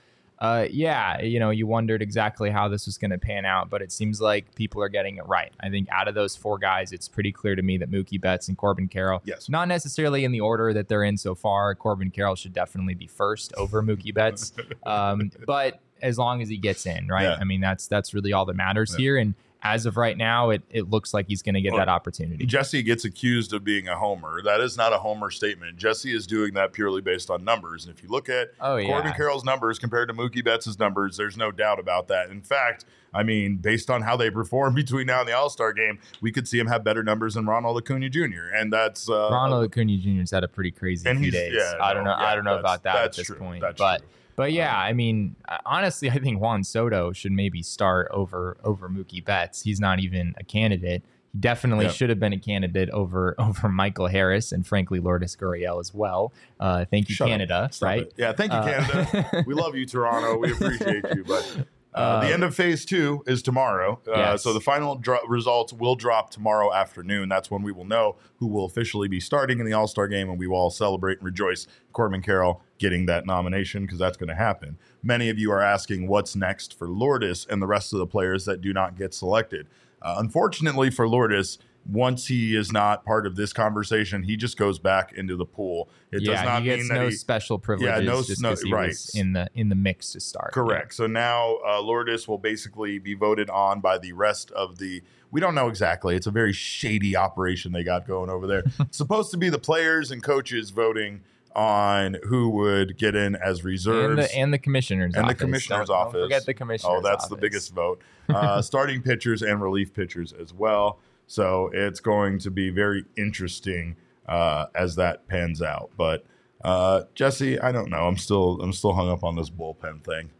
Speaker 2: you wondered exactly how this was going to pan out, but it seems like people are getting it right. I think out of those four guys, it's pretty clear to me that Mookie Betts and Corbin Carroll, not necessarily in the order that they're in so far. Corbin Carroll should definitely be first over Mookie Betts, but as long as he gets in, right? Yeah. I mean, that's really all that matters here. And as of right now, it looks like he's going to get that opportunity.
Speaker 1: Jesse gets accused of being a homer. That is not a homer statement. Jesse is doing that purely based on numbers. And if you look at Corbin Carroll's numbers compared to Mookie Betts' numbers, there's no doubt about that. In fact, I mean, based on how they perform between now and the All-Star game, we could see him have better numbers than Ronald Acuna Jr. And that's
Speaker 2: Ronald Acuna Jr.'s had a pretty crazy few days. I don't know about that at this point. But yeah, I mean, honestly, I think Juan Soto should maybe start over Mookie Betts. He's not even a candidate. He definitely should have been a candidate over Michael Harris and frankly Lourdes Gurriel as well. Thank you, Canada. Right?
Speaker 1: Yeah, thank you, Canada. We love you, Toronto. We appreciate you, but. The end of phase 2 is tomorrow. So the final results will drop tomorrow afternoon. That's when we will know who will officially be starting in the All-Star game, and we will all celebrate and rejoice Corbin Carroll getting that nomination because that's going to happen. Many of you are asking what's next for Lourdes and the rest of the players that do not get selected. Unfortunately for Lourdes, once he is not part of this conversation, he just goes back into the pool. It does not
Speaker 2: he gets
Speaker 1: mean that
Speaker 2: no special privileges just because he was in the mix to start.
Speaker 1: Correct. So now Lourdes will basically be voted on by the rest of the. We don't know exactly. It's a very shady operation they got going over there. It's supposed to be the players and coaches voting on who would get in as reserves
Speaker 2: and the commissioner's
Speaker 1: and
Speaker 2: office.
Speaker 1: The commissioner's office.
Speaker 2: Don't forget the commissioner's office.
Speaker 1: Oh, that's the biggest vote. Starting pitchers and relief pitchers as well. So it's going to be very interesting as that pans out. But Jesse, I don't know. I'm still hung up on this bullpen thing.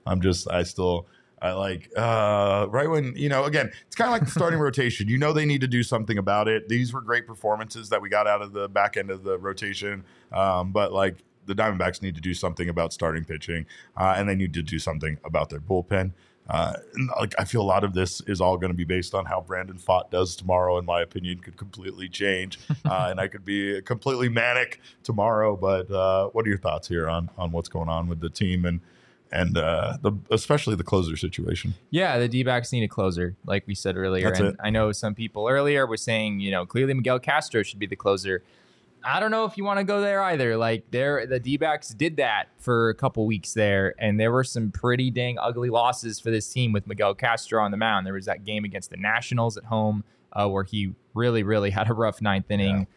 Speaker 1: Right when, again, it's kind of like the starting rotation. They need to do something about it. These were great performances that we got out of the back end of the rotation. But like the Diamondbacks need to do something about starting pitching and they need to do something about their bullpen. I feel a lot of this is all going to be based on how Brandon Pfaadt does tomorrow. In my opinion, could completely change, and I could be completely manic tomorrow. But what are your thoughts here on what's going on with the team and especially the closer situation?
Speaker 2: Yeah, the D-backs need a closer, like we said earlier. I know some people earlier were saying, clearly Miguel Castro should be the closer. I don't know if you want to go there either. Like the D-backs did that for a couple weeks there, and there were some pretty dang ugly losses for this team with Miguel Castro on the mound. There was that game against the Nationals at home where he really, really had a rough ninth inning.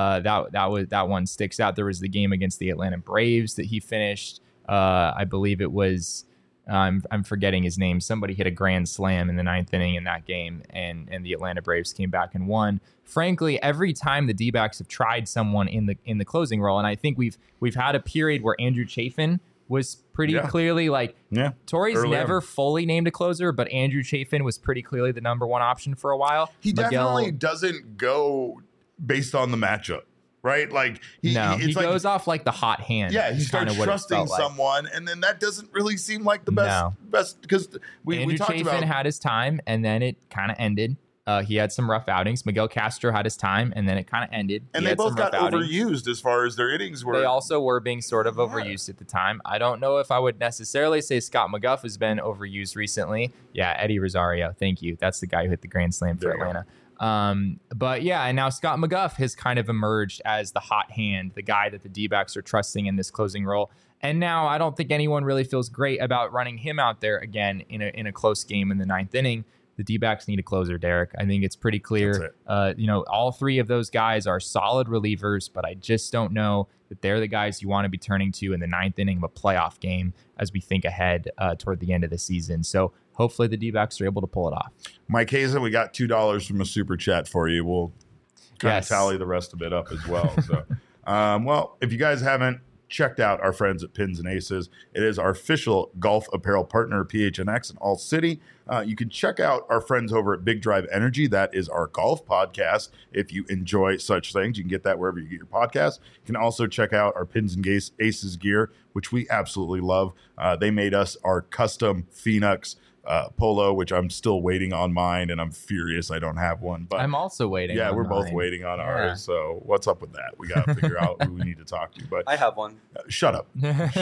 Speaker 2: That one sticks out. There was the game against the Atlanta Braves that he finished. I believe it was. I'm forgetting his name. Somebody hit a grand slam in the ninth inning in that game, and the Atlanta Braves came back and won. Frankly, every time the D-backs have tried someone in the closing role, and I think we've had a period where Andrew Chafin was pretty clearly Torrey's never fully named a closer, but Andrew Chafin was pretty clearly the number one option for a while.
Speaker 1: He definitely doesn't go based on the matchup. Right? Like
Speaker 2: he goes off like the hot hand.
Speaker 1: Yeah, he starts trusting someone, and then that doesn't really seem like the best because
Speaker 2: Andrew Chafin had his time, and then it kind of ended. He had some rough outings. Miguel Castro had his time, and then it kind of ended.
Speaker 1: And they both got overused as far as their innings were.
Speaker 2: They also were being sort of overused at the time. I don't know if I would necessarily say Scott McGough has been overused recently. Yeah, Eddie Rosario. Thank you. That's the guy who hit the grand slam for Atlanta. But yeah, and now Scott McGough has kind of emerged as the hot hand, the guy that the D-backs are trusting in this closing role. And now I don't think anyone really feels great about running him out there again in a close game in the ninth inning. The D-backs need a closer, Derek. I think it's pretty clear. All three of those guys are solid relievers, but I just don't know that they're the guys you want to be turning to in the ninth inning of a playoff game as we think ahead toward the end of the season. So hopefully the D-backs are able to pull it off.
Speaker 1: Mike Hazen, we got $2 from a super chat for you. We'll kind of tally the rest of it up as well. So, well, if you guys haven't checked out our friends at Pins and Aces, it is our official golf apparel partner, PHNX in All City. You can check out our friends over at Big Drive Energy. That is our golf podcast. If you enjoy such things, you can get that wherever you get your podcast. You can also check out our Pins and Aces gear, which we absolutely love. They made us our custom Phoenix polo, which I'm still waiting on mine, and I'm furious I don't have one. But
Speaker 2: I'm also waiting.
Speaker 1: Yeah, we're both waiting on ours. So what's up with that? We got to figure out who we need to talk to. But
Speaker 6: I have one.
Speaker 1: Shut up.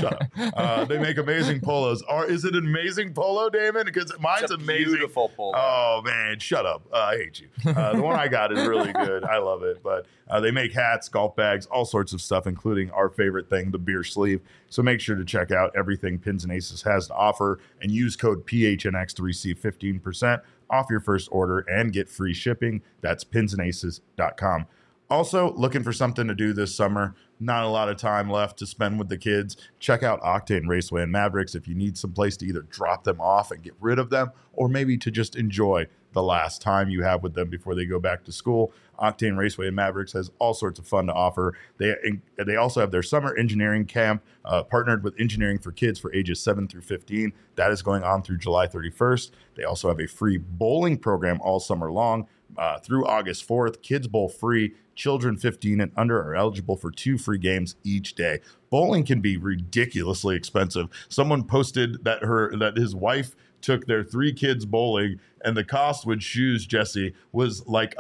Speaker 1: They make amazing polos. Is it an amazing polo, Damon? Because mine's amazing.
Speaker 6: Beautiful polo.
Speaker 1: Oh man, shut up. I hate you. The one I got is really good. I love it. But They make hats, golf bags, all sorts of stuff, including our favorite thing, the beer sleeve. So make sure to check out everything Pins and Aces has to offer and use code PHNX to receive 15% off your first order and get free shipping. That's pinsandaces.com. Also, looking for something to do this summer. Not a lot of time left to spend with the kids. Check out Octane Raceway and Mavericks if you need some place to either drop them off and get rid of them, or maybe to just enjoy the last time you have with them before they go back to school. Octane Raceway and Mavericks has all sorts of fun to offer. They also have their summer engineering camp partnered with Engineering for Kids for ages 7 through 15. That is going on through July 31st. They also have a free bowling program all summer long through August 4th. Kids bowl free. Children 15 and under are eligible for 2 free games each day. Bowling can be ridiculously expensive. Someone posted that his wife took their 3 kids bowling, and the cost with shoes, Jesse, was like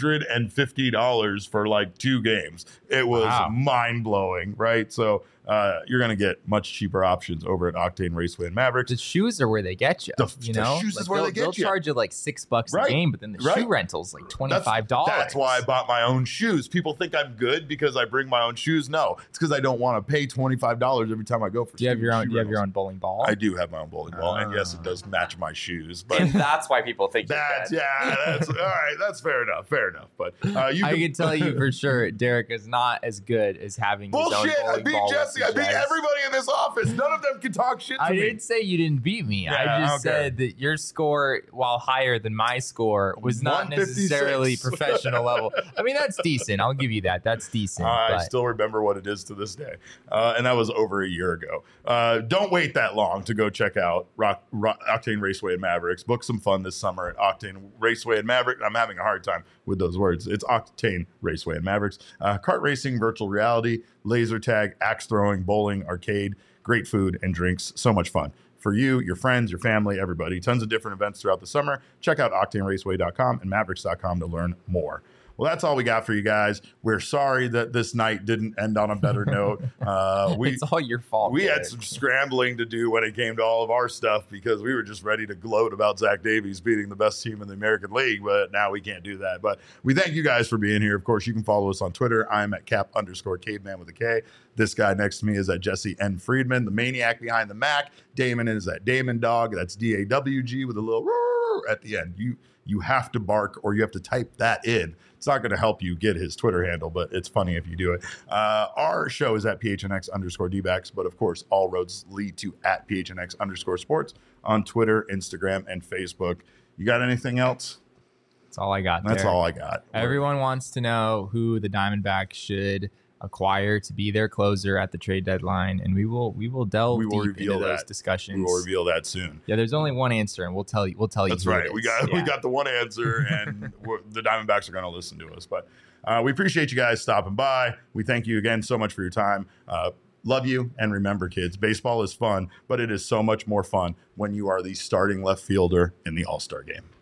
Speaker 1: $150 for like 2 games. It was mind-blowing, right? So you're going to get much cheaper options over at Octane Raceway and Mavericks.
Speaker 2: The shoes are where they get you.
Speaker 1: The shoes is where they get you.
Speaker 2: They'll charge you like $6 a game, but then the shoe rental's like $25.
Speaker 1: That's why I bought my own shoes. People think I'm good because I bring my own shoes. No, it's because I don't want to pay $25 every time I go for.
Speaker 2: Do you have your own bowling ball?
Speaker 1: I do have my own bowling ball, and yes, it does match my shoes. But
Speaker 6: And that's why people think
Speaker 1: that's all right. That's fair enough. But
Speaker 2: I can tell you for sure, Derek is not as good as having his own
Speaker 1: bullshit.
Speaker 2: bowling
Speaker 1: I beat
Speaker 2: ball.
Speaker 1: Jesse. I beat everybody in this office. None of them can talk shit to me.
Speaker 2: I didn't say you didn't beat me. I just said that your score, while higher than my score, was not necessarily professional level. I mean, that's decent. I'll give you that. That's decent.
Speaker 1: I still remember what it is to this day. And that was over a year ago. Don't wait that long to go check out Octane Raceway and Mavericks. Book some fun this summer at Octane Raceway and Maverick. I'm having a hard time with those words. It's Octane Raceway and Mavericks. Kart racing, virtual reality, laser tag, axe throwing, bowling, arcade, great food and drinks. So much fun for you, your friends, your family, everybody. Tons of different events throughout the summer. Check out octaneraceway.com and mavericks.com to learn more. Well, that's all we got for you guys. We're sorry that this night didn't end on a better note.
Speaker 2: It's all your fault.
Speaker 1: We
Speaker 2: Derek.
Speaker 1: had some scrambling to do when it came to all of our stuff because we were just ready to gloat about Zach Davies beating the best team in the American League, but now we can't do that. But we thank you guys for being here. Of course, you can follow us on Twitter. I'm at cap_caveman with a K. This guy next to me is at Jesse N. Friedman, the maniac behind the Mac. Damon is at Damon Dog. That's DAWG with a little at the end. You have to bark or you have to type that in. It's not going to help you get his Twitter handle, but it's funny if you do it. Our show is at PHNX_DBacks, but of course, all roads lead to at PHNX_sports on Twitter, Instagram, and Facebook. You got anything else?
Speaker 2: That's all I got.
Speaker 1: That's
Speaker 2: Derek.
Speaker 1: all I got.
Speaker 2: Everyone wants to know who the Diamondbacks should acquire to be their closer at the trade deadline, and we will delve deep into those discussions.
Speaker 1: We will reveal that soon.
Speaker 2: Yeah, there's only one answer, and we'll tell you.
Speaker 1: That's
Speaker 2: who
Speaker 1: right.
Speaker 2: it is.
Speaker 1: We got the one answer, and the Diamondbacks are going to listen to us. But we appreciate you guys stopping by. We thank you again so much for your time. Love you, and remember, kids, baseball is fun, but it is so much more fun when you are the starting left fielder in the All-Star game.